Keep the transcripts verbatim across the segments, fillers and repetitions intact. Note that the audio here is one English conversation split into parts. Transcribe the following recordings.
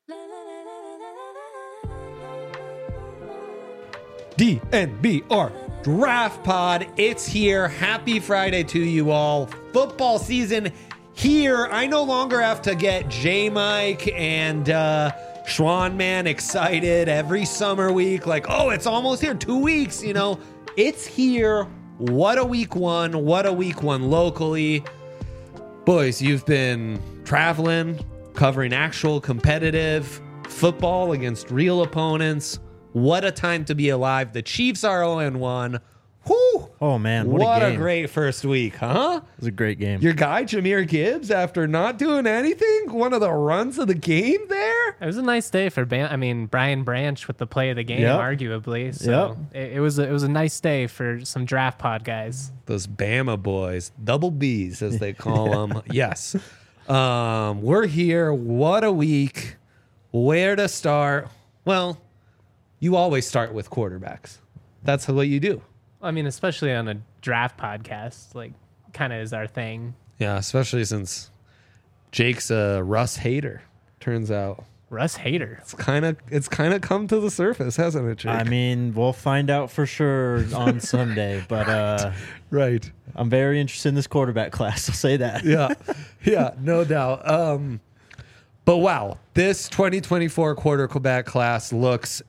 D N B R Draft Pod. It's here. Happy Friday to you all. Football season here. I no longer have to get J Mike and uh, Schwan Man excited every summer week. Like, oh, it's almost here. Two weeks, you know. It's here. What a week one. What a week one locally. Boys, you've been traveling, covering actual competitive football against real opponents. What a time to be alive. The Chiefs are oh and one. Whew. Oh, man. What, What a, a game. great first week, huh? It was a great game. Your guy, Jahmyr Gibbs, after not doing anything, one of the runs of the game there. It was a nice day for Ban- I mean Brian Branch with the play of the game, Yep. arguably. So Yep. it, it was a, it was a nice day for some draft pod guys. Those Bama boys, double Bs as they call them. Yes. Um, we're here. What a week. Where to start? Well, you always start with quarterbacks. That's what you do. I mean, especially on a draft podcast, like kind of is our thing. Yeah, especially since Jake's a Russ hater. Turns out Russ hater. it's kind of it's kind of come to the surface, hasn't it, Jake? I mean, we'll find out for sure on Sunday, but uh, right. I'm very interested in this quarterback class. I'll say that. Yeah, yeah, no doubt. Um, but wow, this twenty twenty-four quarterback class looks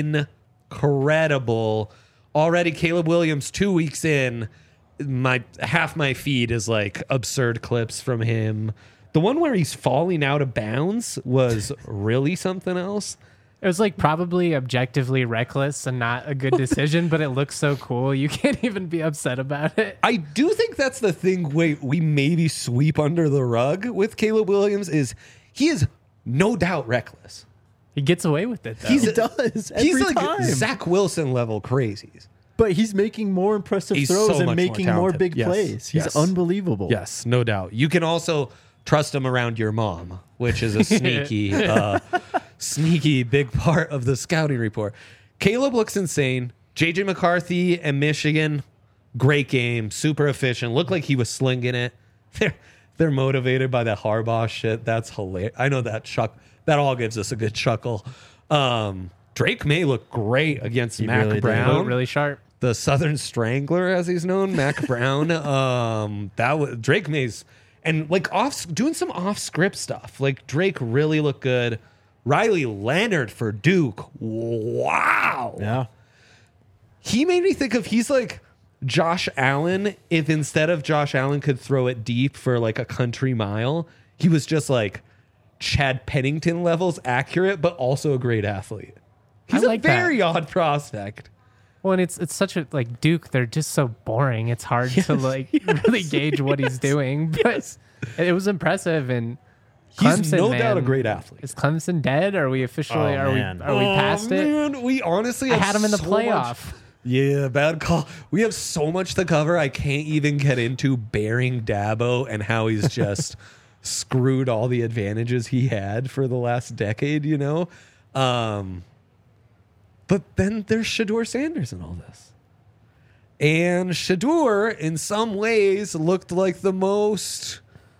incredible. Already, Caleb Williams, two weeks in, my half my feed is like absurd clips from him. The one where he's falling out of bounds was really something else. It was like probably objectively reckless and not a good decision, but it looks so cool. You can't even be upset about it. I do think that's the thing we, we maybe sweep under the rug with Caleb Williams is he is no doubt reckless. He gets away with it, though. He's He does. Every He's like time. Zach Wilson level crazies. But he's making more impressive He's throws so and much making more more, talented. big Yes. plays. He's Yes. unbelievable. Yes, no doubt. You can also trust him around your mom, which is a sneaky, uh, sneaky big part of the scouting report. Caleb looks insane. J J McCarthy and Michigan, great game, super efficient. Looked like he was slinging it. They're they're motivated by that Harbaugh shit. That's hilarious. I know that chuck. That all gives us a good chuckle. Um, Drake May looked great against He Mac really did. Brown. Looked really sharp. The Southern Strangler, as he's known, Mac Brown. Um, that was Drake May's and like off doing some off script stuff. Like Drake really looked good. Riley Leonard for Duke. Wow. Yeah. He made me think of he's like Josh Allen. If instead of Josh Allen could throw it deep for like a country mile, he was just like Chad Pennington levels accurate, but also a great athlete. He's I like a that. very odd prospect. Well, and it's it's such a like Duke. They're just so boring. It's hard to like really gauge what he's doing. But it was impressive, and He's Clemson, no man, doubt a great athlete. Is Clemson dead? Are we officially? Oh, are man. we? Are we past oh, it? Man, we honestly I have had him in the so much- playoff. Yeah, bad call. We have so much to cover. I can't even get into bearing Dabo and how he's just screwed all the advantages he had for the last decade, you know? Um, but then there's Shedeur Sanders and all this. And Shedeur, in some ways, looked like the most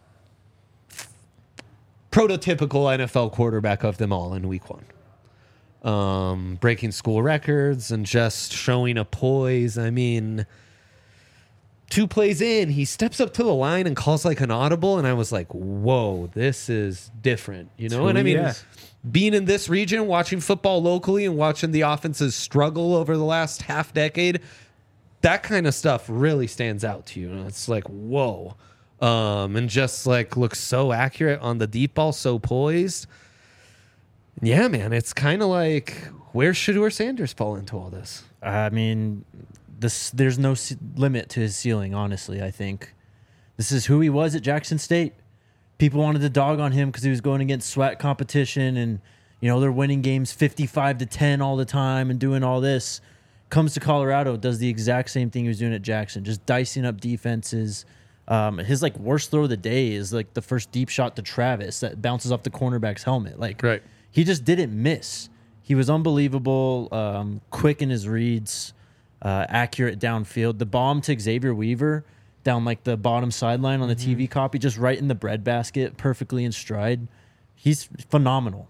prototypical N F L quarterback of them all in week one. Um, breaking school records and just showing a poise. I mean, two plays in, he steps up to the line and calls like an audible, and I was like, whoa, this is different, you know? who And I he mean, is. being in this region, watching football locally and watching the offenses struggle over the last half decade, that kind of stuff really stands out to you. And it's like, whoa. Um, and just like looks so accurate on the deep ball, so poised. Yeah, man, it's kind of like, where's Shedeur Sanders fall into all this? I mean, this there's no ce- limit to his ceiling, honestly, I think. This is who he was at Jackson State. People wanted to dog on him because he was going against SWAT competition and, you know, they're winning games fifty-five to ten all the time and doing all this. Comes to Colorado, does the exact same thing he was doing at Jackson, just dicing up defenses. Um, his, like, worst throw of the day is, like, the first deep shot to Travis that bounces off the cornerback's helmet. Like, Right. he just didn't miss. He was unbelievable, um, quick in his reads, uh, accurate downfield. The bomb to Xavier Weaver down like the bottom sideline on the Mm-hmm. T V copy, just right in the breadbasket, perfectly in stride. He's phenomenal.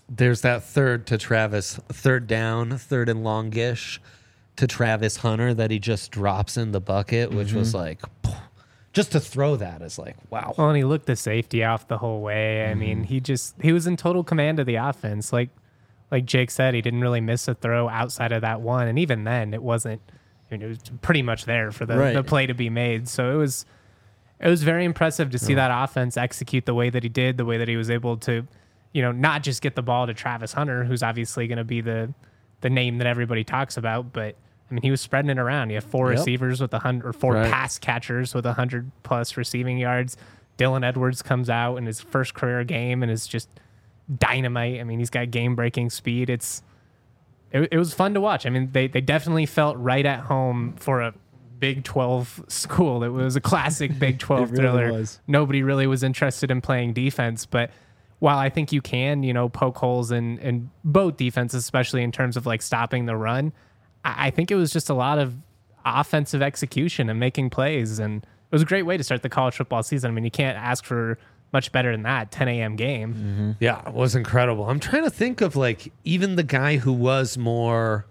there's that third to Travis, third down, third and longish to Travis Hunter that he just drops in the bucket, which mm-hmm. was like, just to throw that is like, wow. Well, and he looked the safety off the whole way. I mm-hmm. mean, he just, he was in total command of the offense. Like, like Jake said, he didn't really miss a throw outside of that one. And even then, it wasn't, I mean, it was pretty much there for the, right. the play to be made. So it was, it was very impressive to see yeah. that offense execute the way that he did, the way that he was able to, you know, not just get the ball to Travis Hunter, who's obviously going to be the the name that everybody talks about, but I mean, he was spreading it around. You have four yep. receivers with a hundred, or four right. pass catchers with a hundred plus receiving yards. Dylan Edwards comes out in his first career game and is just dynamite. I mean, he's got game breaking speed. It's it, it was fun to watch. I mean, they they definitely felt right at home for a Big twelve school. It was a classic Big twelve really thriller. Was. Nobody really was interested in playing defense, but while I think you can, you know, poke holes in, in both defenses, especially in terms of like stopping the run, I, I think it was just a lot of offensive execution and making plays. And it was a great way to start the college football season. I mean, you can't ask for much better than that ten a.m. game. Mm-hmm. Yeah, it was incredible. I'm trying to think of like even the guy who was more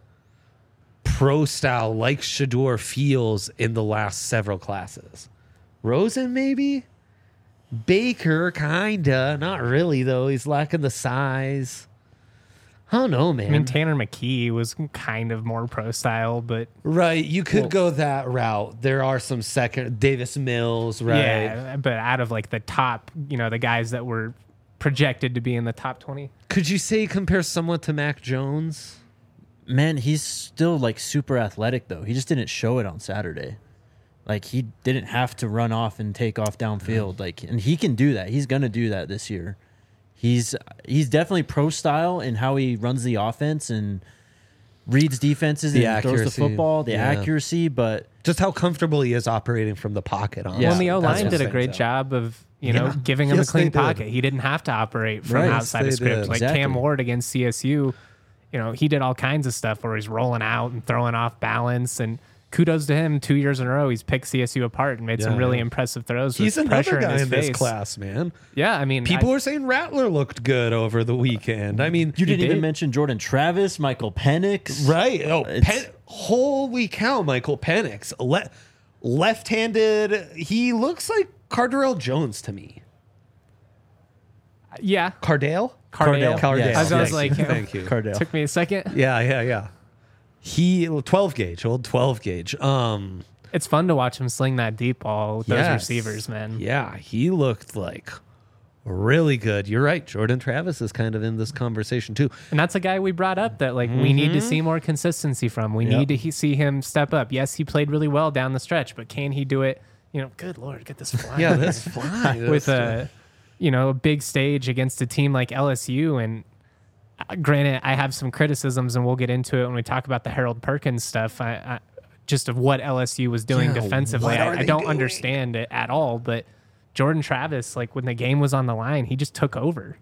pro style like Shedeur feels in the last several classes. Rosen, maybe? Baker, kinda. Not really, though. He's lacking the size. I don't know, man. I mean, Tanner McKee was kind of more pro style, but... Right, you could well, go that route. There are some second... Davis Mills, right? Yeah, but out of, like, the top, you know, the guys that were projected to be in the top twenty. Could you say he compares somewhat to Mac Jones? Man, he's still, like, super athletic, though. He just didn't show it on Saturday. Like, he didn't have to run off and take off downfield. Like, and he can do that. He's going to do that this year. He's he's definitely pro style in how he runs the offense and reads defenses the and accuracy. throws the football, the yeah. accuracy, but just how comfortable he is operating from the pocket. Honestly. Yeah. Well, and the O-line did a great out. job of, you know, yeah. giving him yes, a clean pocket. He didn't have to operate from right. outside yes, of script. Did. Like exactly. Cam Ward against C S U, you know, he did all kinds of stuff where he's rolling out and throwing off balance, and kudos to him. Two years in a row, he's picked C S U apart and made yeah, some really yeah. impressive throws. He's with another pressure guy in, his in face. this class, man. Yeah, I mean, people I, were saying Rattler looked good over the weekend. I mean, you didn't did. even mention Jordan Travis, Michael Penix, right? Oh, Pen- holy cow, Michael Penix, Le- left-handed. He looks like Cardale Jones to me. Yeah, Cardale, Cardale. Cardale. Yes. I was, I was yes. like, thank you. Cardale. Took me a second. Yeah, yeah, yeah. He twelve gauge, old twelve gauge. Um. It's fun to watch him sling that deep ball with those yes. receivers, man. Yeah, he looked like really good. You're right. Jordan Travis is kind of in this conversation too. And that's a guy we brought up that like mm-hmm. we need to see more consistency from. We yep. need to he- see him step up. Yes, he played really well down the stretch, but can he do it? You know, good Lord, get this flying. Yeah, that's flying. With a, you know, a big stage against a team like L S U. And uh, granted, I have some criticisms, and we'll get into it when we talk about the Harold Perkins stuff. I, I just of what L S U was doing yeah, defensively. I, I don't doing? understand it at all, but Jordan Travis, like when the game was on the line, he just took over.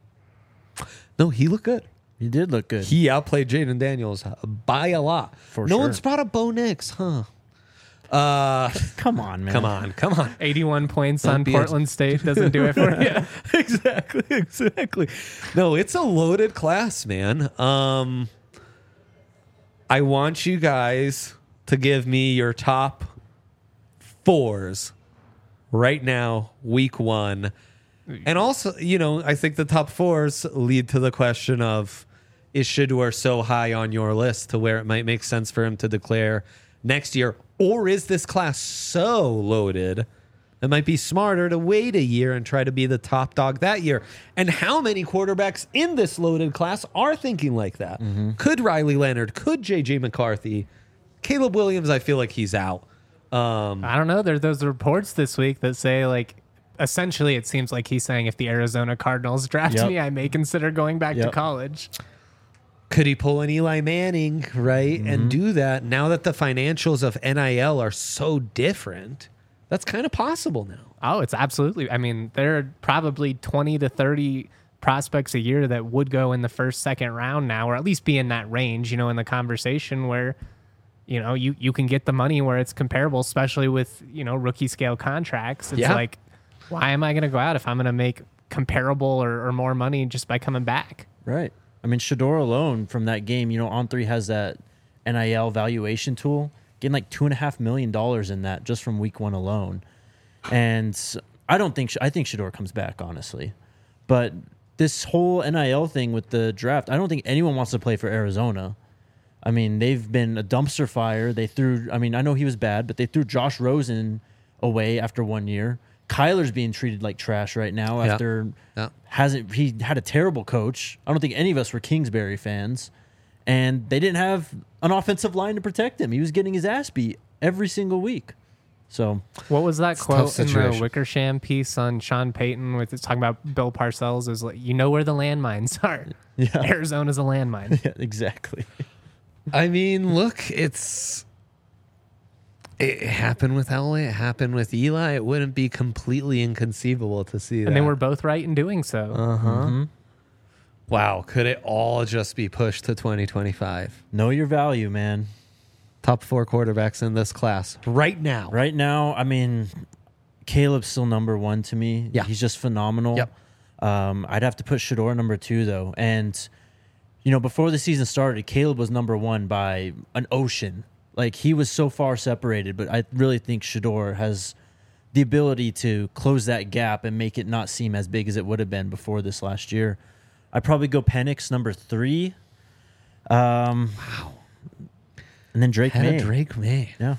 No, he looked good. He did look good. He outplayed Jaden Daniels by a lot. For no sure. one's brought up Bo Nix, huh? Uh, come on, man. Come on, come on. eighty-one points Don't on Portland a- State doesn't do it for you. exactly, exactly. No, it's a loaded class, man. Um, I want you guys to give me your top fours right now, week one. And also, you know, I think the top fours lead to the question of, is Shedeur so high on your list to where it might make sense for him to declare next year? Or is this class so loaded it might be smarter to wait a year and try to be the top dog that year? And how many quarterbacks in this loaded class are thinking like that? Mm-hmm. Could Riley Leonard, could J J McCarthy, Caleb Williams, I feel like he's out. Um, I don't know. There are those reports this week that say, like, essentially it seems like he's saying if the Arizona Cardinals draft yep. me, I may consider going back yep. to college. Could he pull an Eli Manning, right, mm-hmm. and do that now that the financials of N I L are so different? That's kind of possible now. Oh, it's absolutely. I mean, there are probably twenty to thirty prospects a year that would go in the first, second round now, or at least be in that range, you know, in the conversation where, you know, you, you can get the money where it's comparable, especially with, you know, rookie scale contracts. It's yeah. like, why am I going to go out if I'm going to make comparable or, or more money just by coming back? Right. I mean, Shador alone from that game, you know, On three has that N I L valuation tool, getting like two and a half million dollars in that just from week one alone. And I don't think, I think Shador comes back, honestly. But this whole N I L thing with the draft, I don't think anyone wants to play for Arizona. I mean, they've been a dumpster fire. They threw, I mean, I know he was bad, but they threw Josh Rosen away after one year. Kyler's being treated like trash right now Yeah. after Yeah. hasn't he had a terrible coach. I don't think any of us were Kingsbury fans, and they didn't have an offensive line to protect him. He was getting his ass beat every single week. So What was that a tough quote in the situation. Wickersham piece on Sean Payton with it's talking about Bill Parcells? Is like, you know where the landmines are. yeah, Arizona's a landmine. yeah exactly. I mean, look, it's it happened with Elway. It happened with Eli. It wouldn't be completely inconceivable to see that. And they were both right in doing so. Uh huh. Mm-hmm. Wow. Could it all just be pushed to twenty twenty-five? Know your value, man. Top four quarterbacks in this class right now. Right now, I mean, Caleb's still number one to me. Yeah. He's just phenomenal. Yep. Um, I'd have to put Shador number two, though. And, you know, before the season started, Caleb was number one by an ocean. Like, he was so far separated, but I really think Shador has the ability to close that gap and make it not seem as big as it would have been before this last year. I'd probably go Penix number three. Um, wow. And then Drake Had May. a Drake May Yeah.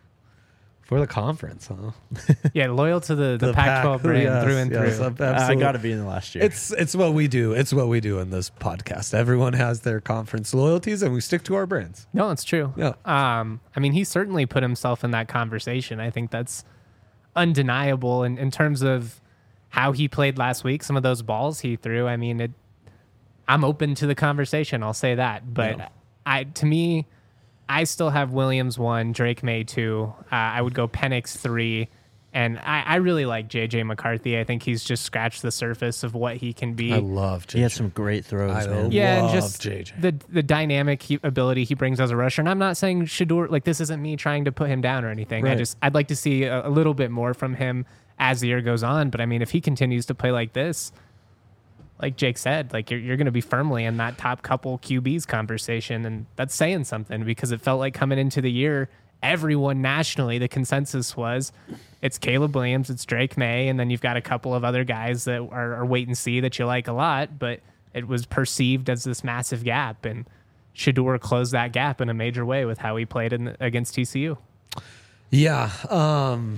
for the conference, huh? Yeah, loyal to the, the, Pac twelve brand yes, through and yes, through. ab- I absolutely. got to be in the last year. It's it's what we do. It's what we do in this podcast. Everyone has their conference loyalties, and we stick to our brands. No, it's true. Yeah. Um, I mean, he certainly put himself in that conversation. I think that's undeniable in, in terms of how he played last week. Some of those balls he threw. I mean, it. I'm open to the conversation. I'll say that. But Yeah. I, to me, I still have Williams one, Drake May two. Uh, I would go Penix three. And I, I really like J J McCarthy. I think he's just scratched the surface of what he can be. I love J J. he had some great throws, I man. Yeah, and love just J J. the the dynamic he, ability he brings as a rusher. And I'm not saying Shador, like this isn't me trying to put him down or anything. I Right. just I'd like to see a, a little bit more from him as the year goes on. But I mean, if he continues to play like this, like Jake said, like you're you're going to be firmly in that top couple Q Bs conversation, and that's saying something because it felt like coming into the year, everyone nationally, the consensus was it's Caleb Williams, it's Drake May, and then you've got a couple of other guys that are, are wait and see that you like a lot, but it was perceived as this massive gap, and Shador closed that gap in a major way with how he played in, against T C U. Yeah, um,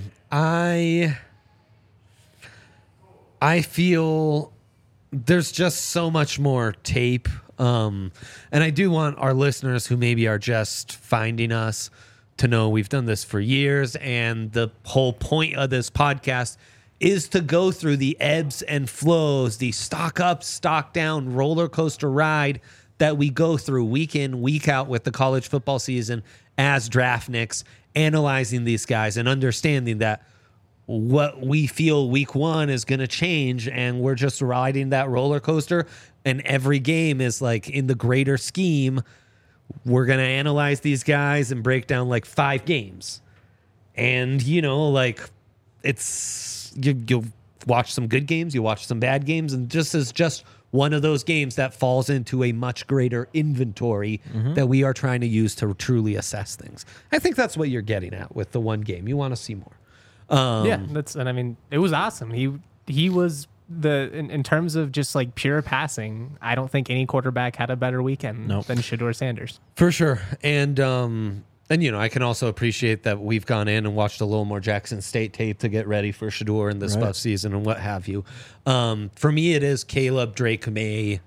I I feel there's just so much more tape, um, and I do want our listeners who maybe are just finding us to know we've done this for years, and the whole point of this podcast is to go through the ebbs and flows, the stock up, stock down roller coaster ride that we go through week in, week out with the college football season as draftniks, analyzing these guys and understanding that what we feel week one is going to change, and we're just riding that roller coaster, and every game is like in the greater scheme. We're going to analyze these guys and break down like five games. And, you know, like it's, you, you'll watch some good games, you watch some bad games, and just as just one of those games that falls into a much greater inventory Mm-hmm. that we are trying to use to truly assess things. I think that's what you're getting at with the one game. You want to see more. Um, Yeah, that's and I mean it was awesome. He he was the in, in terms of just like pure passing. I don't think any quarterback had a better weekend Nope. than Shador Sanders. For sure. And, um, and, you know, I can also appreciate that we've gone in and watched a little more Jackson State tape to get ready for Shador in this Right. buff season and what have you. Um, for me, it is Caleb, Drake May.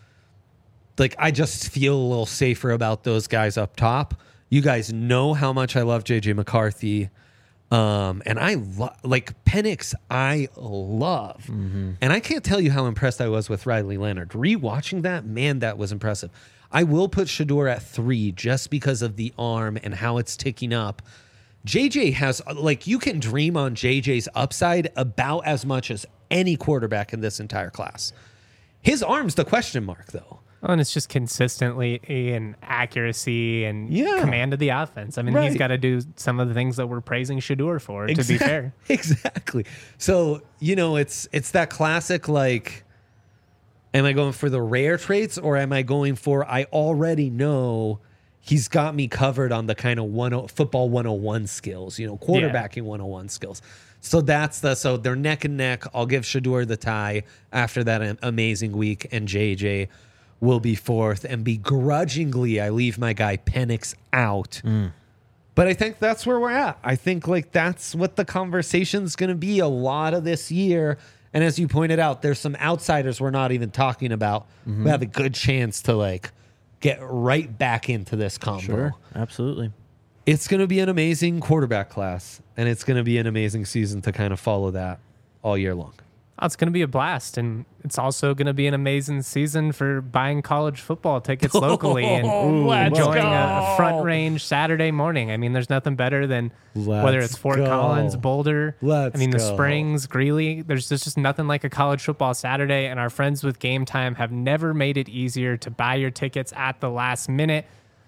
Like, I just feel a little safer about those guys up top. You guys know how much I love J J McCarthy. Um, and I love, like, Penix, I love. Mm-hmm. And I can't tell you how impressed I was with Riley Leonard. Rewatching that, man, that was impressive. I will put Shador at three just because of the arm and how it's ticking up. J J has, like, you can dream on J J's upside about as much as any quarterback in this entire class. His arm's the question mark, though. Oh, and it's just consistently in accuracy and Yeah. command of the offense. I mean, Right. he's got to do some of the things that we're praising Shador for, to be Exact- fair. Exactly. So, you know, it's it's that classic, like, Am I going for the rare traits, or am I going for I already know he's got me covered on the kind of one football one oh one skills, you know, quarterbacking yeah. one oh one skills. So that's the so they're neck and neck. I'll give Shedeur the tie after that amazing week, and J J will be fourth. And begrudgingly, I leave my guy Penix out. Mm. But I think that's where we're at. I think like that's what the conversation's going to be a lot of this year. And as you pointed out, there's some outsiders we're not even talking about mm-hmm. who have a good chance to like get right back into this combo. Sure, absolutely. It's going to be an amazing quarterback class, and it's going to be an amazing season to kind of follow that all year long. Oh, it's going to be a blast, and it's also going to be an amazing season for buying college football tickets locally and oh, enjoying a, a front range Saturday morning. I mean, there's nothing better than let's whether it's Fort go. Collins, Boulder, Let's I mean, go. the Springs, Greeley. There's just, just nothing like a college football Saturday, and our friends with Game Time have never made it easier to buy your tickets at the last minute.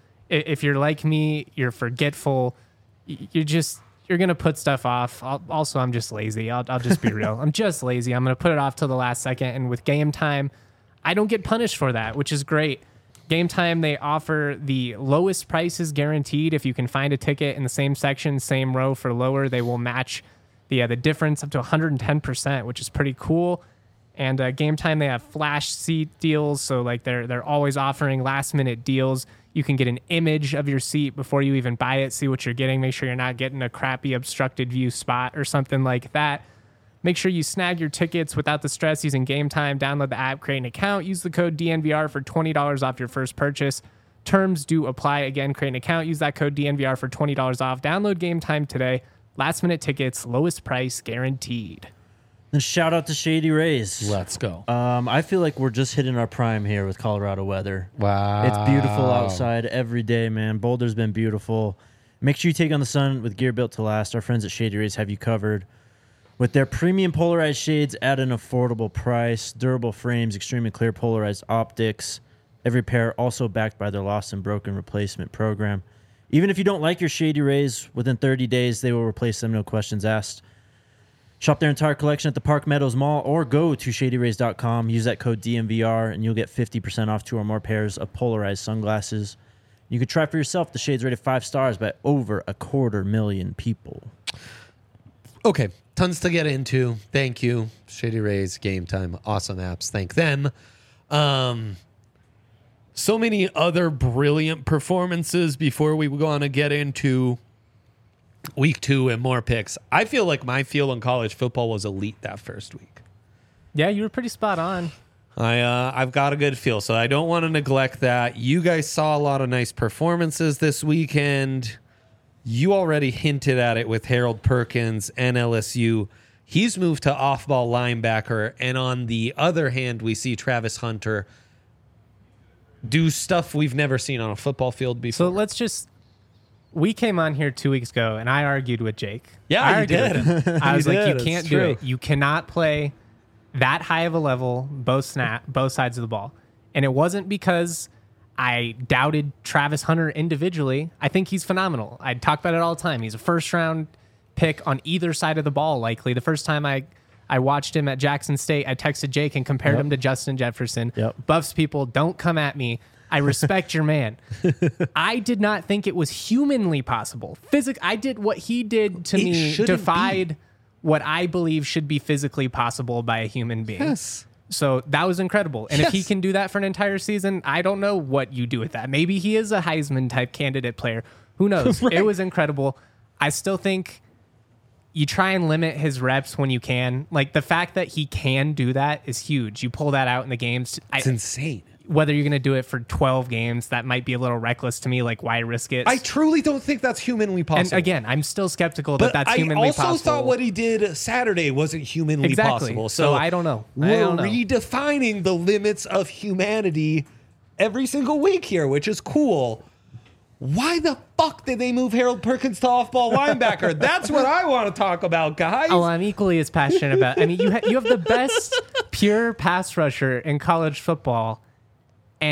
If you're like me, you're forgetful. You're just... You're going to put stuff off. I'll, also, I'm just lazy. I'll, I'll just be real. I'm just lazy. I'm going to put it off till the last second. And with Game Time, I don't get punished for that, which is great. Game Time, they offer the lowest prices guaranteed. If you can find a ticket in the same section, same row for lower, they will match the, uh, the difference up to one hundred ten percent, which is pretty cool. And uh, Game Time, they have flash seat deals. So like they're they're always offering last minute deals. You can get an image of your seat before you even buy it, see what you're getting. Make sure you're not getting a crappy obstructed view spot or something like that. Make sure you snag your tickets without the stress using Game Time. Download the app, create an account, use the code D N V R for twenty dollars off your first purchase. Terms do apply. Again, create an account, use that code D N V R for twenty dollars off. Download Game Time today. Last minute tickets, lowest price guaranteed. And shout out to Shady Rays. Let's go. Um, I feel like we're just hitting our prime here with Colorado weather. Wow. It's beautiful outside every day, man. Boulder's been beautiful. Make sure you take on the sun with gear built to last. Our friends at Shady Rays have you covered with their premium polarized shades at an affordable price, durable frames, extremely clear polarized optics. Every pair also backed by their lost and broken replacement program. Even if you don't like your Shady Rays, within thirty days, they will replace them, no questions asked. Shop their entire collection at the Park Meadows Mall or go to shady rays dot com. Use that code D M V R and you'll get fifty percent off two or more pairs of polarized sunglasses. You can try for yourself. The shades rated five stars by over a quarter million people. Okay, tons to get into. Thank you, Shady Rays, Game Time, awesome apps. Thank them. Um, so many other brilliant performances before we go on to get into week two and more picks. I feel like my feel on college football was elite that first week. Yeah, you were pretty spot on. I, uh, I've got a good feel, so I don't want to neglect that. You guys saw a lot of nice performances this weekend. You already hinted at it with Harold Perkins and L S U. He's moved to off-ball linebacker, and on the other hand, we see Travis Hunter do stuff we've never seen on a football field before. So let's just... We came on here two weeks ago, and I argued with Jake. Yeah, I you did. I was You like, did. you can't It's do true. it. You cannot play that high of a level, both snap, both sides of the ball. And it wasn't because I doubted Travis Hunter individually. I think he's phenomenal. I talk about it all the time. He's a first-round pick on either side of the ball, likely. The first time I, I watched him at Jackson State, I texted Jake and compared Yep. him to Justin Jefferson. Yep. Buffs people, don't come at me. I respect your man. I did not think it was humanly possible. Physic. I did what he did to It me, shouldn't defied be. what I believe should be physically possible by a human being. Yes. So that was incredible. And if he Yes. can do that for an entire season, I don't know what you do with that. Maybe he is a Heisman type candidate player. Who knows? Right. It was incredible. I still think you try and limit his reps when you can. Like the fact that he can do that is huge. You pull that out in the games. It's I, insane. whether you're going to do it for twelve games, that might be a little reckless to me. Like, why risk it? I truly don't think that's humanly possible. and again, I'm still skeptical but that that's I humanly also possible. thought what he did Saturday wasn't humanly Exactly. possible. So So, I don't know. I We're don't know. redefining the limits of humanity every single week here, which is cool. Why the fuck did they move Harold Perkins to off-ball linebacker? That's what I want to talk about, guys. Oh, I'm equally as passionate about. I mean, you ha- you have the best pure pass rusher in college football, and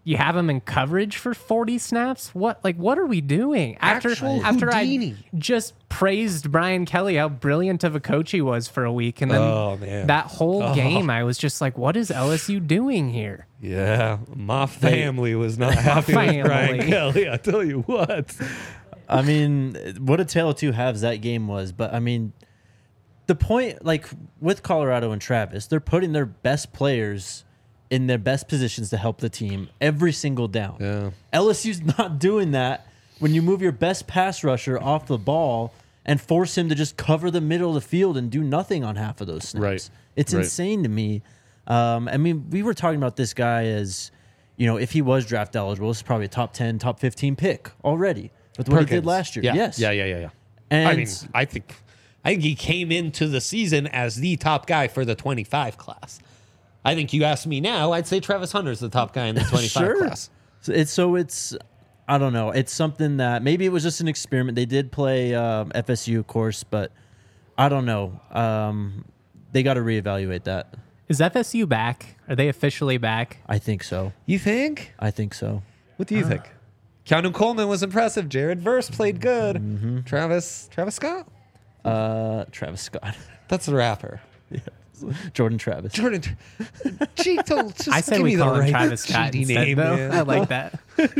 you have him in coverage for forty snaps. What like what are we doing? After Actual after Houdini. I just praised Brian Kelly how brilliant of a coach he was for a week, and then Oh, man. that whole Oh. game I was just like, what is L S U doing here? Yeah, my family was not happy family. with Brian Kelly. I tell you what. I mean, what a tale of two halves that game was. But I mean, the point, like with Colorado and Travis, they're putting their best players in their best positions to help the team every single down. Yeah. L S U's not doing that when you move your best pass rusher off the ball and force him to just cover the middle of the field and do nothing on half of those snaps. Right. It's Right. insane to me. Um, I mean, we were talking about this guy as, you know, if he was draft eligible, this is probably a top ten, top fifteen pick already with what he did Perkins. last year. Yeah. Yes. Yeah, yeah, yeah, yeah. And I mean, I think I think he came into the season as the top guy for the twenty-five class. I think you ask me now, I'd say Travis Hunter's the top guy in the twenty-five sure. class. So it's so it's I don't know. It's something that maybe it was just an experiment. They did play um, F S U, of course, but I don't know. Um, they got to reevaluate that. Is F S U back? Are they officially back? I think so. You think? I think so. What do you think? Keanu Coleman was impressive. Jared Verse played good. Travis Travis Scott? Uh, Travis Scott, That's the rapper. Jordan Travis. Jordan. Gee, don't just I say give we me the call him right Travis Scott G D instead, name, though. man. I like that.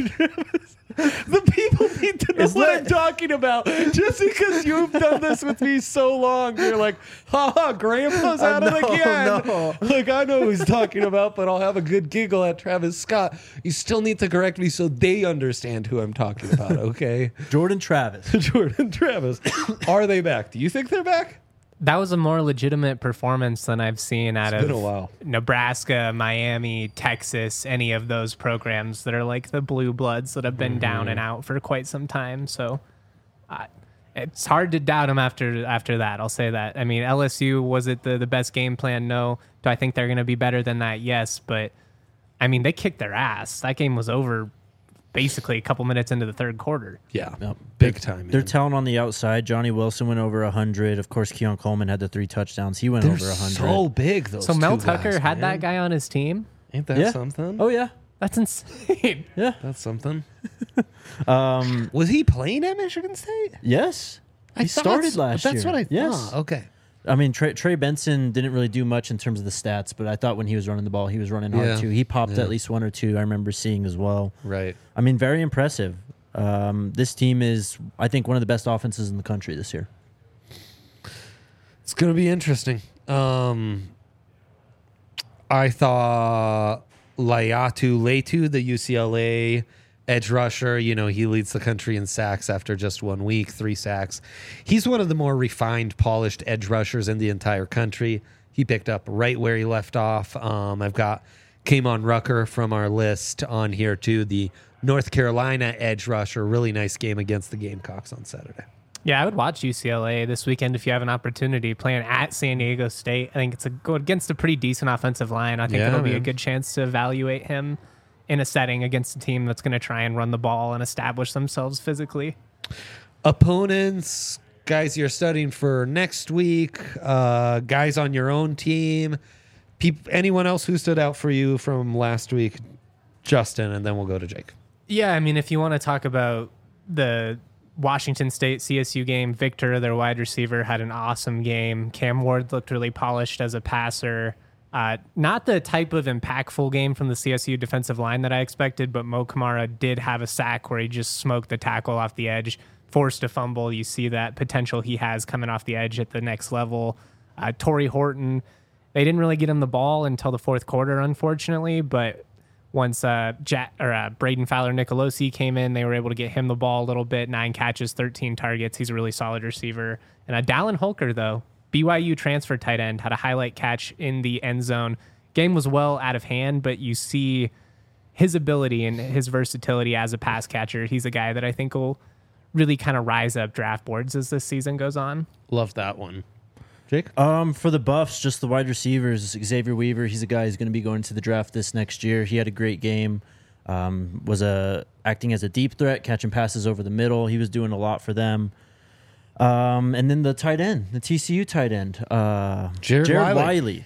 The people need to know Is what that- I'm talking about. Just because you've done this with me so long, you're like, ha, Grandpa's at it no, again. no. Like, I know who he's talking about, but I'll have a good giggle at Travis Scott. You still need to correct me so they understand who I'm talking about, okay? Jordan Travis. Jordan Travis. Are they back? Do you think they're back? That was a more legitimate performance than I've seen out It's of been a while. Nebraska, Miami, Texas, any of those programs that are like the blue bloods that have been down and out for quite some time. So uh, it's hard to doubt them after after that. I'll say that. I mean, L S U, was it the, the best game plan? No. Do I think they're going to be better than that? Yes. But, I mean, they kicked their ass. That game was over basically a couple minutes into the third quarter. Yeah. Yep. Big time. Their man. talent on the outside. Johnny Wilson went over one hundred. Of course, Keon Coleman had the three touchdowns. He went They're over one hundred. so big, those So Mel two Tucker guys, had man. that guy on his team? Ain't that Yeah. something? Oh, yeah. That's insane. Yeah. That's something. Um, Was he playing at Michigan State? yes. I He thought started so. last That's year. what I Yes. thought. Okay. I mean, Trey, Trey Benson didn't really do much in terms of the stats, but I thought when he was running the ball, he was running hard Yeah. too. He popped Yeah. at least one or two. I remember seeing as well. Right. I mean, very impressive. Um, this team is, I think, one of the best offenses in the country this year. It's going to be interesting. Um, I thought Layatu Letu, the U C L A edge rusher, you know, he leads the country in sacks after just one week, three sacks. He's one of the more refined, polished edge rushers in the entire country. He picked up right where he left off. Um, I've got Kamon Rucker from our list on here too, the North Carolina edge rusher. Really nice game against the Gamecocks on Saturday. Yeah, I would watch U C L A this weekend if you have an opportunity playing at San Diego State. I think it's a go against a pretty decent offensive line. I think Yeah, it'll be a man. good chance to evaluate him in a setting against a team that's going to try and run the ball and establish themselves physically. Opponents, guys you're studying for next week, uh, guys on your own team, peop- anyone else who stood out for you from last week, Justin, and then we'll go to Jake. Yeah, I mean, if you want to talk about the Washington State C S U game, Victor, their wide receiver, had an awesome game. Cam Ward looked really polished as a passer. Uh, not the type of impactful game from the C S U defensive line that I expected, but Mo Kamara did have a sack where he just smoked the tackle off the edge, forced a fumble. You see that potential he has coming off the edge at the next level. Uh, Torrey Horton, they didn't really get him the ball until the fourth quarter, unfortunately, but once uh, Jack, or uh, Braden Fowler-Nicolosi came in, they were able to get him the ball a little bit. Nine catches, thirteen targets. He's a really solid receiver. And uh, Dallin Holker, though, B Y U transfer tight end, had a highlight catch in the end zone. Game was well out of hand, but you see his ability and his versatility as a pass catcher. He's a guy that I think will really kind of rise up draft boards as this season goes on. Love that one. Jake? Um, for the Buffs, just the wide receivers, Xavier Weaver, he's a guy who's going to be going to the draft this next year. He had a great game. Um, was a acting as a deep threat, catching passes over the middle. He was doing a lot for them. Um, and then the tight end, the T C U tight end, uh, Jared Jared Wiley. Wiley.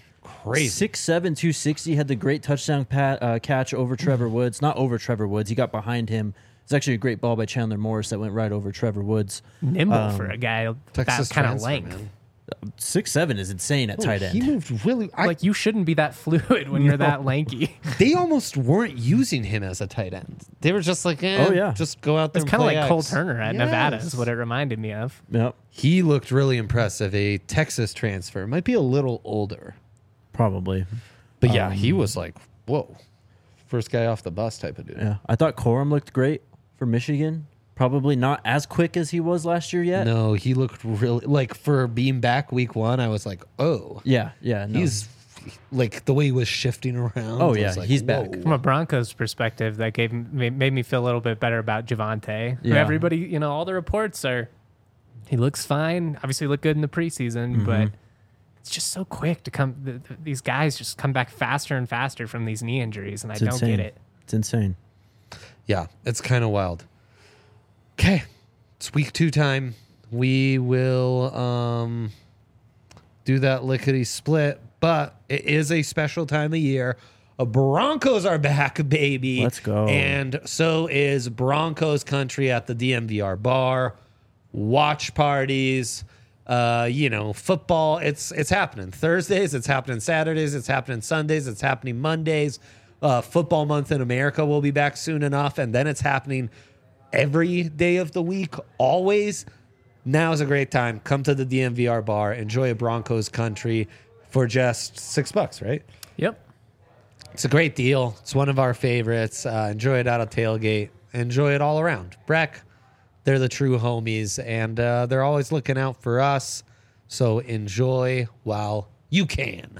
crazy. six seven, two sixty, had the great touchdown pat, uh, catch over Trevor Woods. Not over Trevor Woods. He got behind him. It's actually a great ball by Chandler Morris that went right over Trevor Woods. Nimble Um, for a guy with Texas that kind of transfer, length. man. six seven is insane at tight end. He moved really. I, Like, you shouldn't be that fluid when you're that lanky. they almost weren't using him as a tight end. They were just like, eh, Oh, yeah. just go out there. It's kind of like Cole Turner at Nevada is what it reminded me of. Yep, He looked really impressive. A Texas transfer, might be a little older, probably. but yeah, he was like, whoa, first guy off the bus type of dude. Yeah, I thought Corum looked great for Michigan. Probably not as quick as he was last year yet. No, he looked really like for being back week one. I was like, oh, Yeah, yeah. No. he's like the way he was shifting around. Oh, I yeah, was like, he's back. whoa. From a Broncos perspective, that gave me- made me feel a little bit better about Javante. Yeah. Everybody, you know, all the reports are he looks fine. Obviously, looked good in the preseason, Mm-hmm. but it's just so quick to come. Th- th- these guys just come back faster and faster from these knee injuries, and It's I don't insane. get it. It's insane. Yeah, it's kind of wild. Okay, it's week two time. We will um, do that lickety split, but it is a special time of year. Uh, Broncos are back, baby. Let's go. And so is Broncos country at the D M V R bar. Watch parties. Uh, you know, football. It's it's happening Thursdays. It's happening Saturdays. It's happening Sundays. It's happening Mondays. Uh, football month in America will be back soon enough, and then it's happening every day of the week, always. Now is a great time. Come to the D M V R bar. Enjoy a Broncos country for just six bucks, right? Yep. It's a great deal. It's one of our favorites. Uh, enjoy it out of tailgate. Enjoy it all around. Breck, they're the true homies, and uh, they're always looking out for us. So enjoy while you can.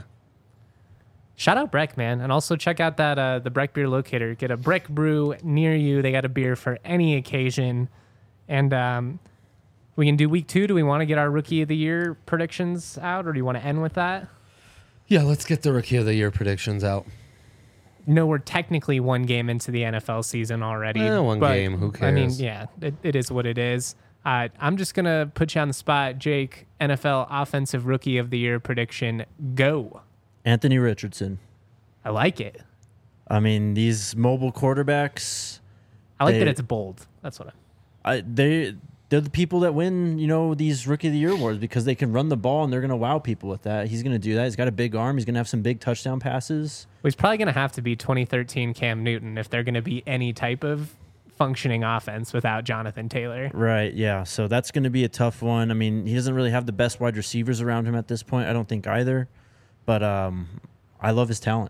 Shout out Breck, man. And also check out that uh, the Breck Beer Locator. Get a Breck brew near you. They got a beer for any occasion. And um, we can do week two. Do we want to get our Rookie of the Year predictions out, or do you want to end with that? Yeah, let's get the Rookie of the Year predictions out. No, we're technically one game into the N F L season already. Eh, one but, game, who I mean, cares? yeah, it, it is what it is. Uh, I'm just going to put you on the spot. Jake, N F L Offensive Rookie of the Year prediction, go. Anthony Richardson. I like it. I mean, these mobile quarterbacks, I like They- that it's bold. That's what I I, they they're the people that win, you know, these Rookie of the Year awards because they can run the ball and they're going to wow people with that. He's going to do that. He's got a big arm. He's going to have some big touchdown passes. Well, he's probably going to have to be twenty thirteen Cam Newton if they're going to be any type of functioning offense without Jonathan Taylor. Right, yeah. So that's going to be a tough one. I mean, he doesn't really have the best wide receivers around him at this point. I don't think either. But um, I love his talent.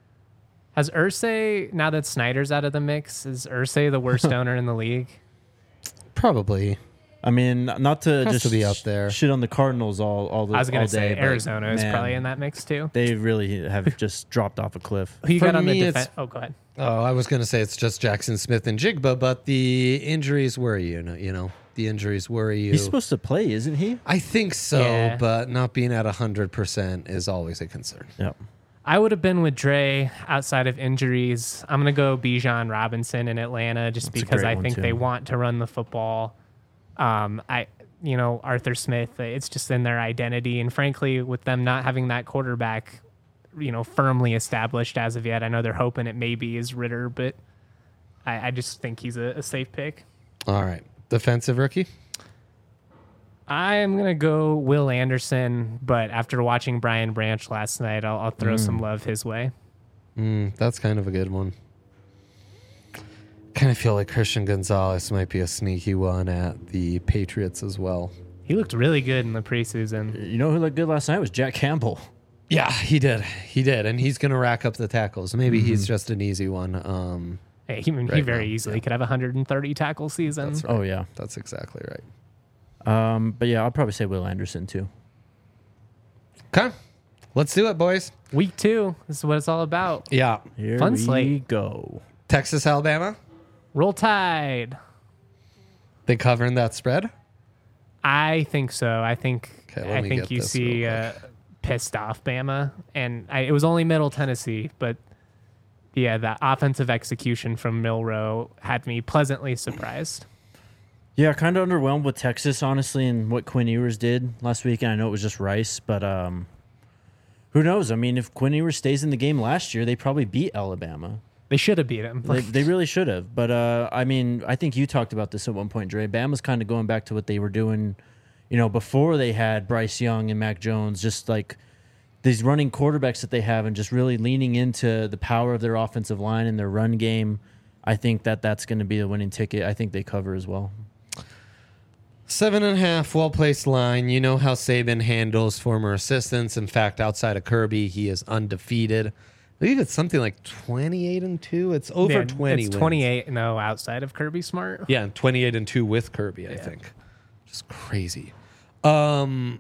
Has Irsay, now that Snyder's out of the mix, is Irsay the worst owner in the league? Probably. I mean, not to Has just to be up there. shit on the Cardinals all all the I was all going to say day, but, Arizona is man, probably in that mix too. They really have just dropped off a cliff. Who you For got on the me, defense? it's- Oh, go ahead. Oh, I was going to say it's just Jackson Smith and Jigba, but the injuries worry you. know- You know, the injuries worry you. He's supposed to play, isn't he? I think so, Yeah. but not being at one hundred percent is always a concern. Yep. I would have been with Dre outside of injuries. I'm going to go Bijan Robinson in Atlanta just That's a because great I one, think too. they want to run the football. Um, I, you know, Arthur Smith, it's just in their identity. And frankly, with them not having that quarterback, you know, firmly established as of yet, I know they're hoping it maybe is Ritter, but I, I just think he's a, a safe pick. All right. Defensive rookie? I am going to go Will Anderson, but after watching Brian Branch last night, I'll, I'll throw some love his way. Mm, that's kind of a good one. Kind of feel like Christian Gonzalez might be a sneaky one at the Patriots as well. He looked really good in the preseason. You know who looked good last night was Jack Campbell. Yeah, he did. He did. And he's going to rack up the tackles. Maybe he's just an easy one. Um, Hey, he, he Right very now, easily yeah. could have a one hundred thirty tackle season. That's right. Oh yeah. That's exactly right. Um, but yeah, I'll probably say Will Anderson too. Okay. Let's do it, boys. Week two, this is what it's all about. Yeah. Here Fun we slate. go. Texas, Alabama. Roll Tide. They covering that spread? I think so. I think Okay, let I me think get you this see real uh, quick. pissed off Bama, and I, it was only Middle Tennessee, but yeah, the offensive execution from Milrow had me pleasantly surprised. Yeah, kind of underwhelmed with Texas, honestly, and what Quinn Ewers did last week. And I know it was just Rice, but um, Who knows? I mean, if Quinn Ewers stays in the game last year, they probably beat Alabama. They should have beat him. They, they really should have. But, uh, I mean, I think you talked about this at one point, Dre. Bama's kind of going back to what they were doing, you know, before they had Bryce Young and Mac Jones, just like these running quarterbacks that they have and just really leaning into the power of their offensive line and their run game. I think that that's going to be the winning ticket. I think they cover as well. Seven and a half, well-placed line. You know how Saban handles former assistants. In fact, outside of Kirby, he is undefeated. I believe it's something like twenty-eight and two. It's over Yeah, twenty. It's wins. twenty-eight and oh outside of Kirby Smart. Yeah, and twenty-eight and two with Kirby, I Yeah. think. Just crazy. Um,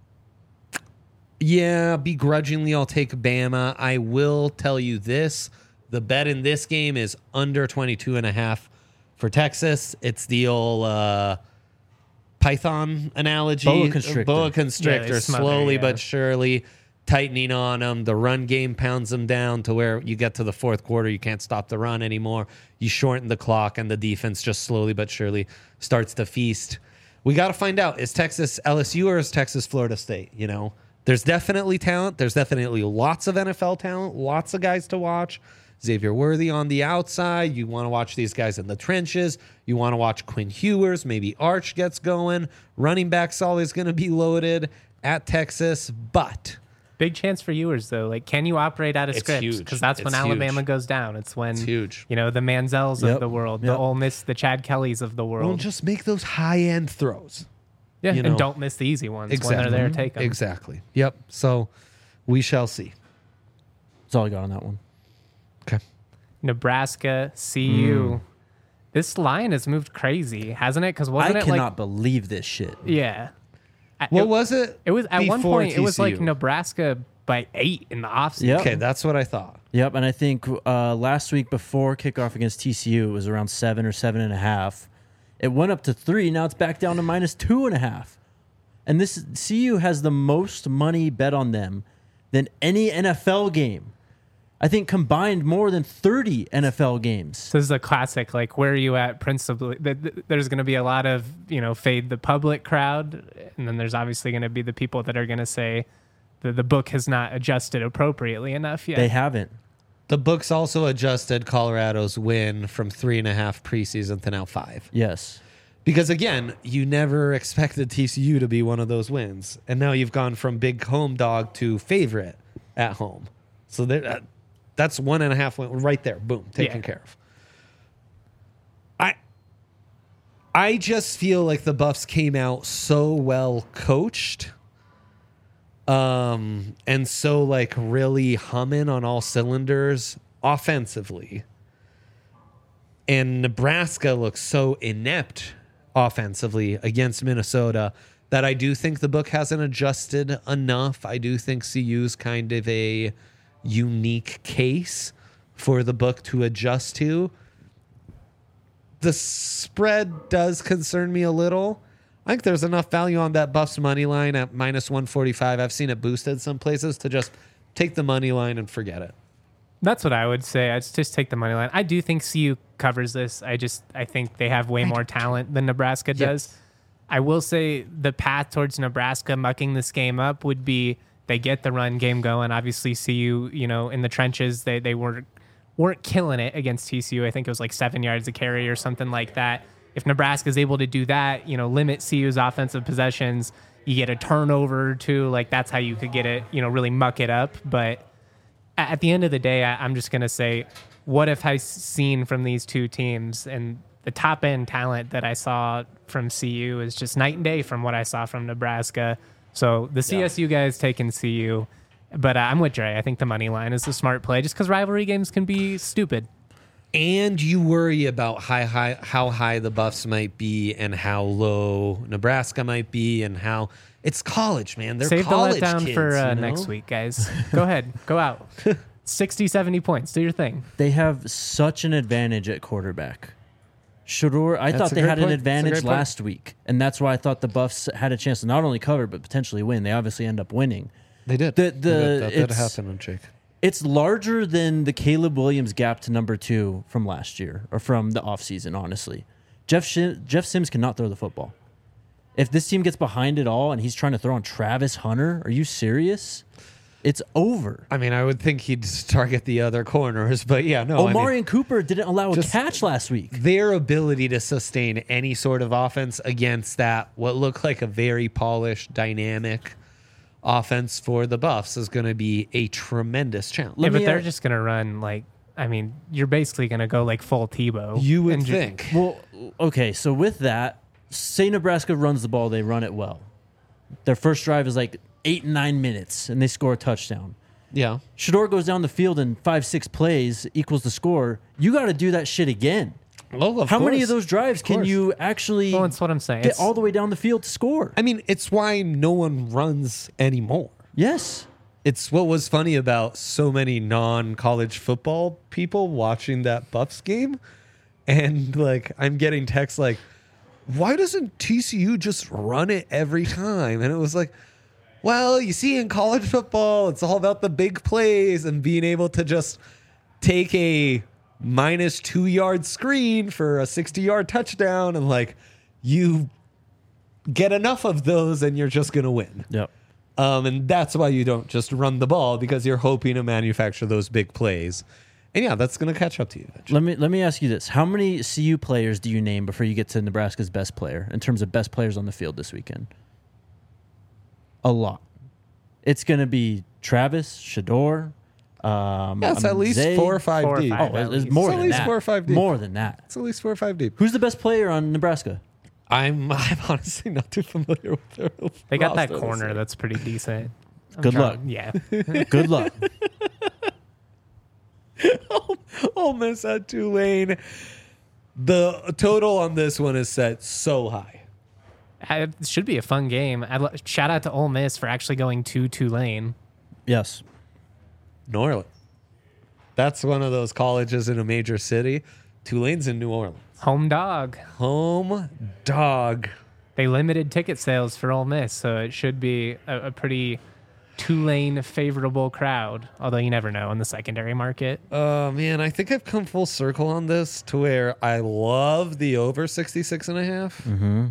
yeah, begrudgingly, I'll take Bama. I will tell you this. The bet in this game is under twenty-two and a half for Texas. It's the old uh, Python analogy. Boa constrictor. Boa Yeah, constrictor, they smother, slowly yeah. but surely tightening on them. The run game pounds them down to where you get to the fourth quarter, you can't stop the run anymore. You shorten the clock, and the defense just slowly but surely starts to feast. We got to find out, is Texas L S U or is Texas Florida State? You know, there's definitely talent. There's definitely lots of N F L talent, lots of guys to watch. Xavier Worthy on the outside. You want to watch these guys in the trenches. You want to watch Quinn Ewers. Maybe Arch gets going. Running back's always going to be loaded at Texas, but Big chance for Ewers, though. Like, can you operate out of It's script? huge. Because that's when It's Alabama huge. goes down. It's when, It's huge. you know, the Manziels Yep. of the world, the Yep. Ole Miss, the Chad Kellys of the world. well, just make those high-end throws. yeah, you know. and don't miss the easy ones when they're there. Take them. Exactly. Yep. So we shall see. That's all I got on that one. Okay. Nebraska, C U. This line has moved crazy, hasn't it? Because I wasn't it cannot like, believe this shit. yeah. I- What it, was it? it was at one before point. It was like T C U? Nebraska by eight in the offseason. Yep. Okay, that's what I thought. Yep, and I think uh, last week before kickoff against T C U, it was around seven or seven and a half. It went up to three. Now it's back down to minus two and a half. And this C U has the most money bet on them than any N F L game. I think combined more than thirty N F L games. So this is a classic. Like, where are you at? Principally, th- th- there's going to be a lot of, you know, fade the public crowd, and then there's obviously going to be the people that are going to say that the book has not adjusted appropriately enough yet. They haven't. The books also adjusted Colorado's win from three and a half preseason to now five. Yes. Because again, you never expected T C U to be one of those wins, and now you've gone from big home dog to favorite at home. So there, uh, that's one and a half win right there. Boom, taken Yeah. care of. I, I just feel like the Buffs came out so well coached, um, and so like really humming on all cylinders offensively. And Nebraska looks so inept offensively against Minnesota that I do think the book hasn't adjusted enough. I do think C U's kind of a unique case for the book to adjust to. The spread does concern me a little. I think there's enough value on that Buffs money line at minus one forty-five. I've seen it boosted some places to just take the money line and forget it. That's what I would say. I'd just take the money line. I do think C U covers this. I just I think they have way more talent than Nebraska does. Yes. I will say the path towards Nebraska mucking this game up would be they get the run game going. Obviously, C U, you know, in the trenches, they they weren't weren't killing it against T C U. I think it was like seven yards a carry or something like that. If Nebraska's able to do that, you know, limit C U's offensive possessions, you get a turnover or two. Like that's how you could get it, you know, really muck it up. But at the end of the day, I, I'm just going to say, what have I seen from these two teams? And the top end talent that I saw from C U is just night and day from what I saw from Nebraska. So the C S U guys taking C U, but uh, I'm with Dre. I think the money line is the smart play just because rivalry games can be stupid. And you worry about high, high, how high the Buffs might be and how low Nebraska might be and how it's college, man. They're Save the college letdown kids, for uh, you know? next week, guys. Go ahead. Go out. sixty, seventy points. Do your thing. They have such an advantage at quarterback. Shador, I That's thought a they great had point. an That's a advantage great point. last week, and that's why I thought the Buffs had a chance to not only cover but potentially win. They obviously end up winning. They did. The- They the- did. That did it's- happen, Jake. It's larger than the Caleb Williams gap to number two from last year or from the offseason, honestly. Jeff Sh- Jeff Sims cannot throw the football. If this team gets behind it all and he's trying to throw on Travis Hunter, are you serious? It's over. I mean, I would think he'd target the other corners, but yeah, no. Omarion I mean, Cooper didn't allow a just- catch last week. their ability to sustain any sort of offense against that, what looked like a very polished, dynamic offense for the Buffs, is going to be a tremendous challenge. Yeah, Let but me, they're uh, just gonna run like. I mean, you're basically gonna go like full Tebow. You would and ju- think. Well, okay, so with that, say Nebraska runs the ball, they run it well. Their first drive is like eight, nine minutes, and they score a touchdown. Yeah. Shador goes down the field in five, six plays, equals the score. You got to do that shit again. Well, of How many course. of those drives can course. you actually Well, that's what I'm saying. get It's- all the way down the field to score? I mean, it's why no one runs anymore. Yes. It's what was funny about so many non-college football people watching that Buffs game. And like, I'm getting texts like, why doesn't T C U just run it every time? And it was like, well, you see, in college football, it's all about the big plays and being able to just take a minus two yard screen for a sixty yard touchdown. And like, you get enough of those and you're just going to win. Yep. Um, and that's why you don't just run the ball, because you're hoping to manufacture those big plays. And yeah, that's going to catch up to you eventually. Let me let me ask you this: how many C U players do you name before you get to Nebraska's best player in terms of best players on the field this weekend? A lot. It's going to be Travis, Shador. Um, Yeah, it's at least Zay. four or five Four or deep. five. Oh, at it's, it's least. more It's at than least that. four or five deep. More than that. It's at least four or five deep. Who's the best player on Nebraska? I'm I'm honestly not too familiar with their They got that roster this corner year. that's pretty decent. I'm Good trying- luck. Yeah. Good luck. Ole Miss at Tulane. The total on this one is set so high. It should be a fun game. I'd lo- shout out to Ole Miss for actually going to Tulane. Yes. New Orleans. That's one of those colleges in a major city. Tulane's in New Orleans. Home dog. Home dog. They limited ticket sales for Ole Miss, so it should be a, a pretty Tulane favorable crowd. Although you never know in the secondary market. Oh, man, I think I've come full circle on this to where I love the over sixty-six and a half. Mm-hmm.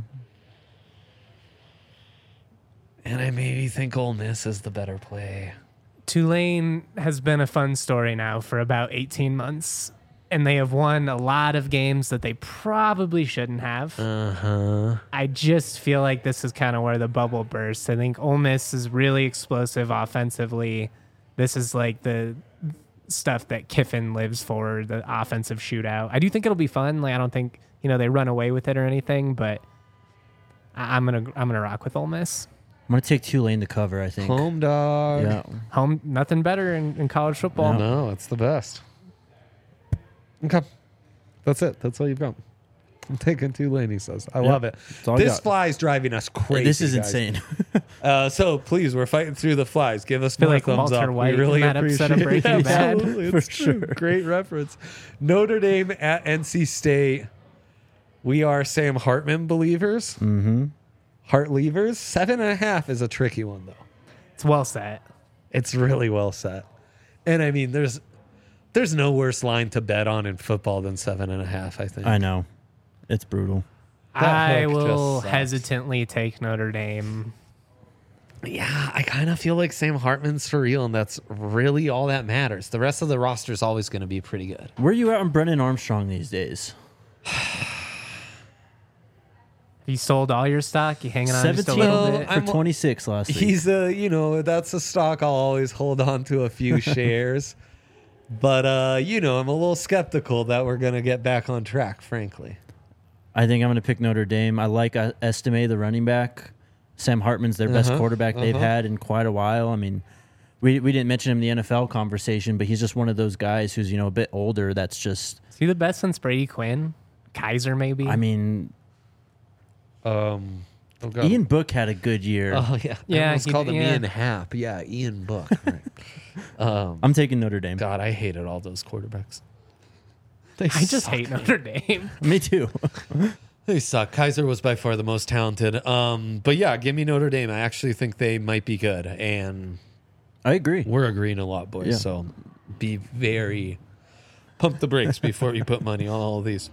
And I maybe think Ole Miss is the better play. Tulane has been a fun story now for about eighteen months, and they have won a lot of games that they probably shouldn't have. Uh-huh. I just feel like this is kind of where the bubble bursts. I think Ole Miss is really explosive offensively. This is like the stuff that Kiffin lives for, the offensive shootout. I do think it'll be fun. Like I don't think, you know, they run away with it or anything, but I- I'm going to I'm going to rock with Ole Miss. I'm going to take Tulane to cover, I think. Home dog. Yeah. Home, nothing better in, in college football. No, it's the best. Okay. That's it. That's all you've got. I'm taking Tulane, he says. I Yeah, love it. that's all I This got. fly's driving us crazy. This is guys. insane. Uh, so please, we're fighting through the flies. Give us feel more like thumbs Walter up. White we really in that appreciate episode of it. Breaking Bad. Absolutely, For it's true. sure. Great reference. Notre Dame at N C State. We are Sam Hartman believers. Mm-hmm. Heart leavers. Seven and a half is a tricky one, though. It's well set. It's really well set. And I mean, there's there's no worse line to bet on in football than seven and a half, I think. I know. It's brutal. That I hook just will sucks. hesitantly take Notre Dame. Yeah, I kind of feel like Sam Hartman's for real, and that's really all that matters. The rest of the roster is always going to be pretty good. Where are you at on Brennan Armstrong these days? You sold all your stock. You hanging on just a seventeen little Well, bit. for I'm- twenty-six last week. He's a, you know, that's a stock I'll always hold on to a few shares. But, uh, you know, I'm a little skeptical that we're going to get back on track, frankly. I think I'm going to pick Notre Dame. I like uh, Estime, the running back. Sam Hartman's their best Uh-huh, quarterback they've uh-huh. had in quite a while. I mean, we we didn't mention him in the N F L conversation, but he's just one of those guys who's, you know, a bit older. That's just, Is he the best since Brady Quinn? Kaiser, maybe? I mean, Um, oh God. Ian Book had a good year. Oh, yeah. Yeah, I almost he- called him yeah. Ian Happ. Yeah, Ian Book. Right. um, I'm taking Notre Dame. God, I hated all those quarterbacks. They I just suck. hate Notre Dame. Me too. They suck. Kaiser was by far the most talented. Um, but yeah, give me Notre Dame. I actually think they might be good, and I agree. we're agreeing a lot, boys. Yeah. So be very pump the brakes before you put money on all of these.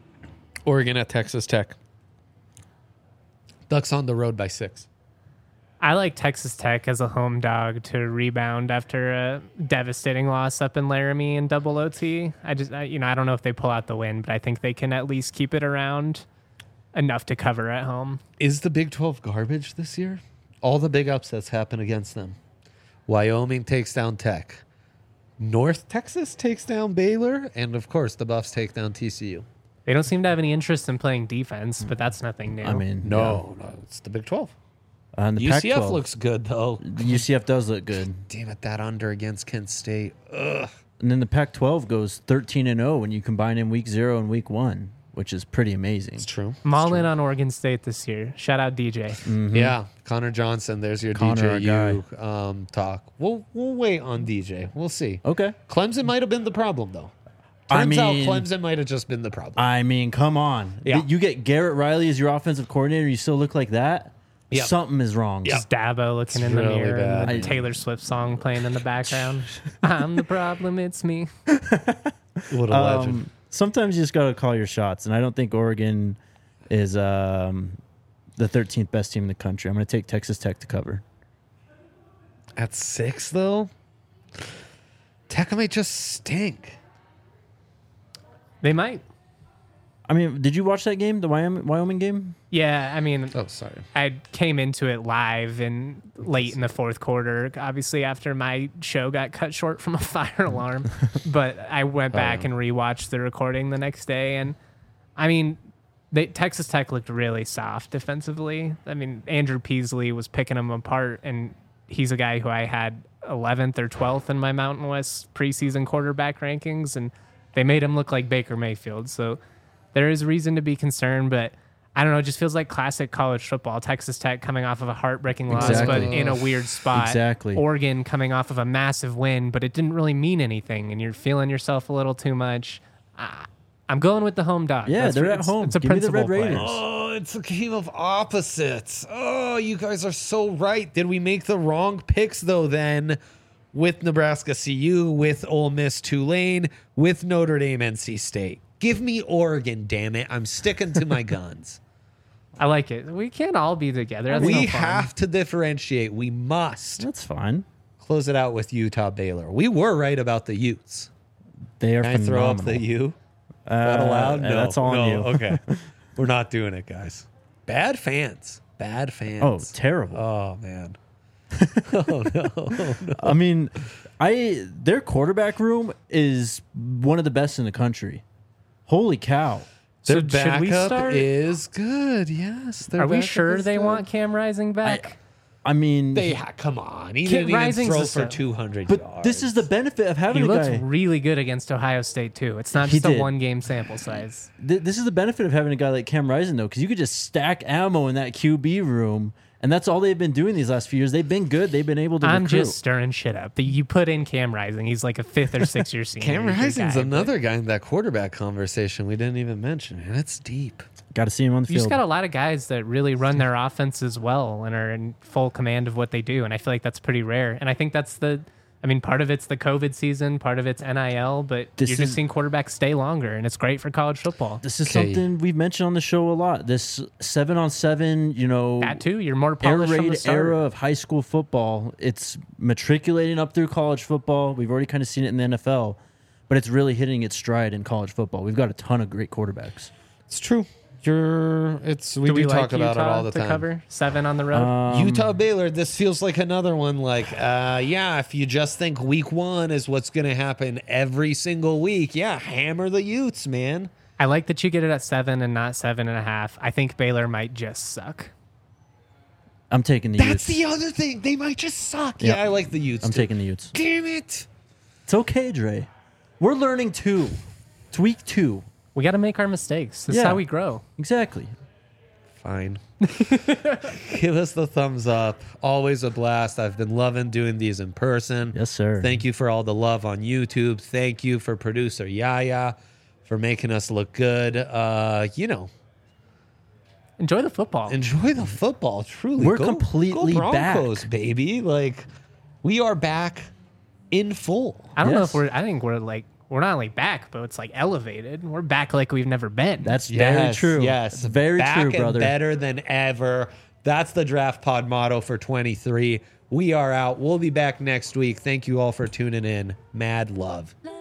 Oregon at Texas Tech. Ducks on the road by six. I like Texas Tech as a home dog to rebound after a devastating loss up in Laramie in double O T. I just, I, you know, I don't know if they pull out the win, but I think they can at least keep it around enough to cover at home. Is the Big twelve garbage this year? All the big upsets happen against them. Wyoming takes down Tech. North Texas takes down Baylor. And, of course, the Buffs take down T C U. They don't seem to have any interest in playing defense, but that's nothing new. I mean, No, no, it's the Big twelve. yeah. And the U C F Pac twelve looks good, though. U C F does look good. Damn it, that under against Kent State. Ugh. And then the Pac twelve goes thirteen and oh when you combine in week zero and week one, which is pretty amazing. It's true. I'm all in on Oregon State this year. Shout out D J. Mm-hmm. Yeah, Connor Johnson. There's your Connor, our D J U um, talk. We'll we'll wait on D J. We'll see. Okay. Clemson might have been the problem, though. I Turns mean- out Clemson might have just been the problem. I mean, come on. Yeah. You get Garrett Riley as your offensive coordinator, you still look like that? Yep. Something is wrong. Yep. Just Dabo looking It's in the really mirror bad. and the Taylor Swift song playing in the background. I'm the problem, it's me. What a legend. Um, sometimes you just got to call your shots, and I don't think Oregon is um, the thirteenth best team in the country. I'm going to take Texas Tech to cover. At six, though, Tech might just stink. They might. I mean, did you watch that game, the Wyoming, Wyoming game? Yeah, I mean, Oh, sorry. I came into it live and late in the fourth quarter, obviously after my show got cut short from a fire alarm. But I went back and rewatched the recording the next day, and I mean, they, Texas Tech looked really soft defensively. I mean, Andrew Peasley was picking them apart, and he's a guy who I had eleventh or twelfth in my Mountain West preseason quarterback rankings, and they made him look like Baker Mayfield. So there is reason to be concerned, but I don't know. It just feels like classic college football. Texas Tech coming off of a heartbreaking loss, Exactly. but in a weird spot. Exactly. Oregon coming off of a massive win, but it didn't really mean anything, and you're feeling yourself a little too much. Uh, I'm going with the home dog. Yeah, That's they're for- at it's, home. It's a Give me the principal Red play. Raiders. Oh, it's a game of opposites. Oh, you guys are so right. Did we make the wrong picks, though, then, with Nebraska C U, with Ole Miss Tulane, with Notre Dame N C State? Give me Oregon, damn it. I'm sticking to my guns. I like it. We can't all be together. That's we no fun. have to differentiate. We must. That's fine. Close it out with Utah Baylor. We were right about the Utes. They are Can I throw phenomenal. up the U? Uh, That allowed? uh, No. That's all no. on you. Okay. We're not doing it, guys. Bad fans. Bad fans. Oh, terrible. Oh, man. oh, no. no. I mean, I their quarterback room is one of the best in the country. Holy cow. Their So should we backup start? is good. Yes. Their Are we backup sure is they good. want Cam Rising back? I mean, They ha- come on. He Kid didn't Rising's even a throw for sub. two hundred but yards. this is the benefit of having he a looks guy. really good against Ohio State, too. It's not He just a did. one-game sample size. Th- this is the benefit of having a guy like Cam Rising, though, because you could just stack ammo in that Q B room, and that's all they've been doing these last few years. They've been good. They've been able to I'm recruit. just stirring shit up. The- You put in Cam Rising. He's like a fifth or sixth year senior. Cam He's your Rising's guy, another guy in that quarterback conversation we didn't even mention. And it's deep. Got to see him on the You just field. got a lot of guys that really run their offenses well and are in full command of what they do. And I feel like that's pretty rare. And I think that's the, I mean, part of it's the COVID season, part of it's N I L, but This you're is- just seeing quarterbacks stay longer, and it's great for college football. This is Okay. something we've mentioned on the show a lot. This seven on seven, you know, That too, you're more air polished from the raid start. era of high school football. It's matriculating up through college football. We've already kind of seen it in the N F L, but it's really hitting its stride in college football. We've got a ton of great quarterbacks. It's true. You're. It's. We do do, we talk like about Utah it all the to time. cover seven on the road? Um, Utah Baylor. This feels like another one. Like, uh, yeah, if you just think week one is what's going to happen every single week, yeah, hammer the Utes, man. I like that you get it at seven and not seven and a half. I think Baylor might just suck. I'm taking the That's Utes. the other thing. They might just suck. Yep. Yeah, I like the Utes. I'm too. taking the Utes. Damn it. It's okay, Dre. We're learning too. It's week two. We got to make our mistakes. This Yeah. is how we grow. Exactly. Fine. Give us the thumbs up. Always a blast. I've been loving doing these in person. Yes, sir. Thank you for all the love on YouTube. Thank you for producer Yaya for making us look good. Uh, you know, Enjoy the football. enjoy the football. Truly, We're Go- completely go Broncos, back. baby. Like we are back in full. I don't know Yes. if we're. I think we're like we're not only back, but it's like elevated. We're back like we've never been. That's very Yes, true. Yes, It's very back true, and brother. better than ever. That's the Draft Pod motto for twenty-three. We are out. We'll be back next week. Thank you all for tuning in. Mad love.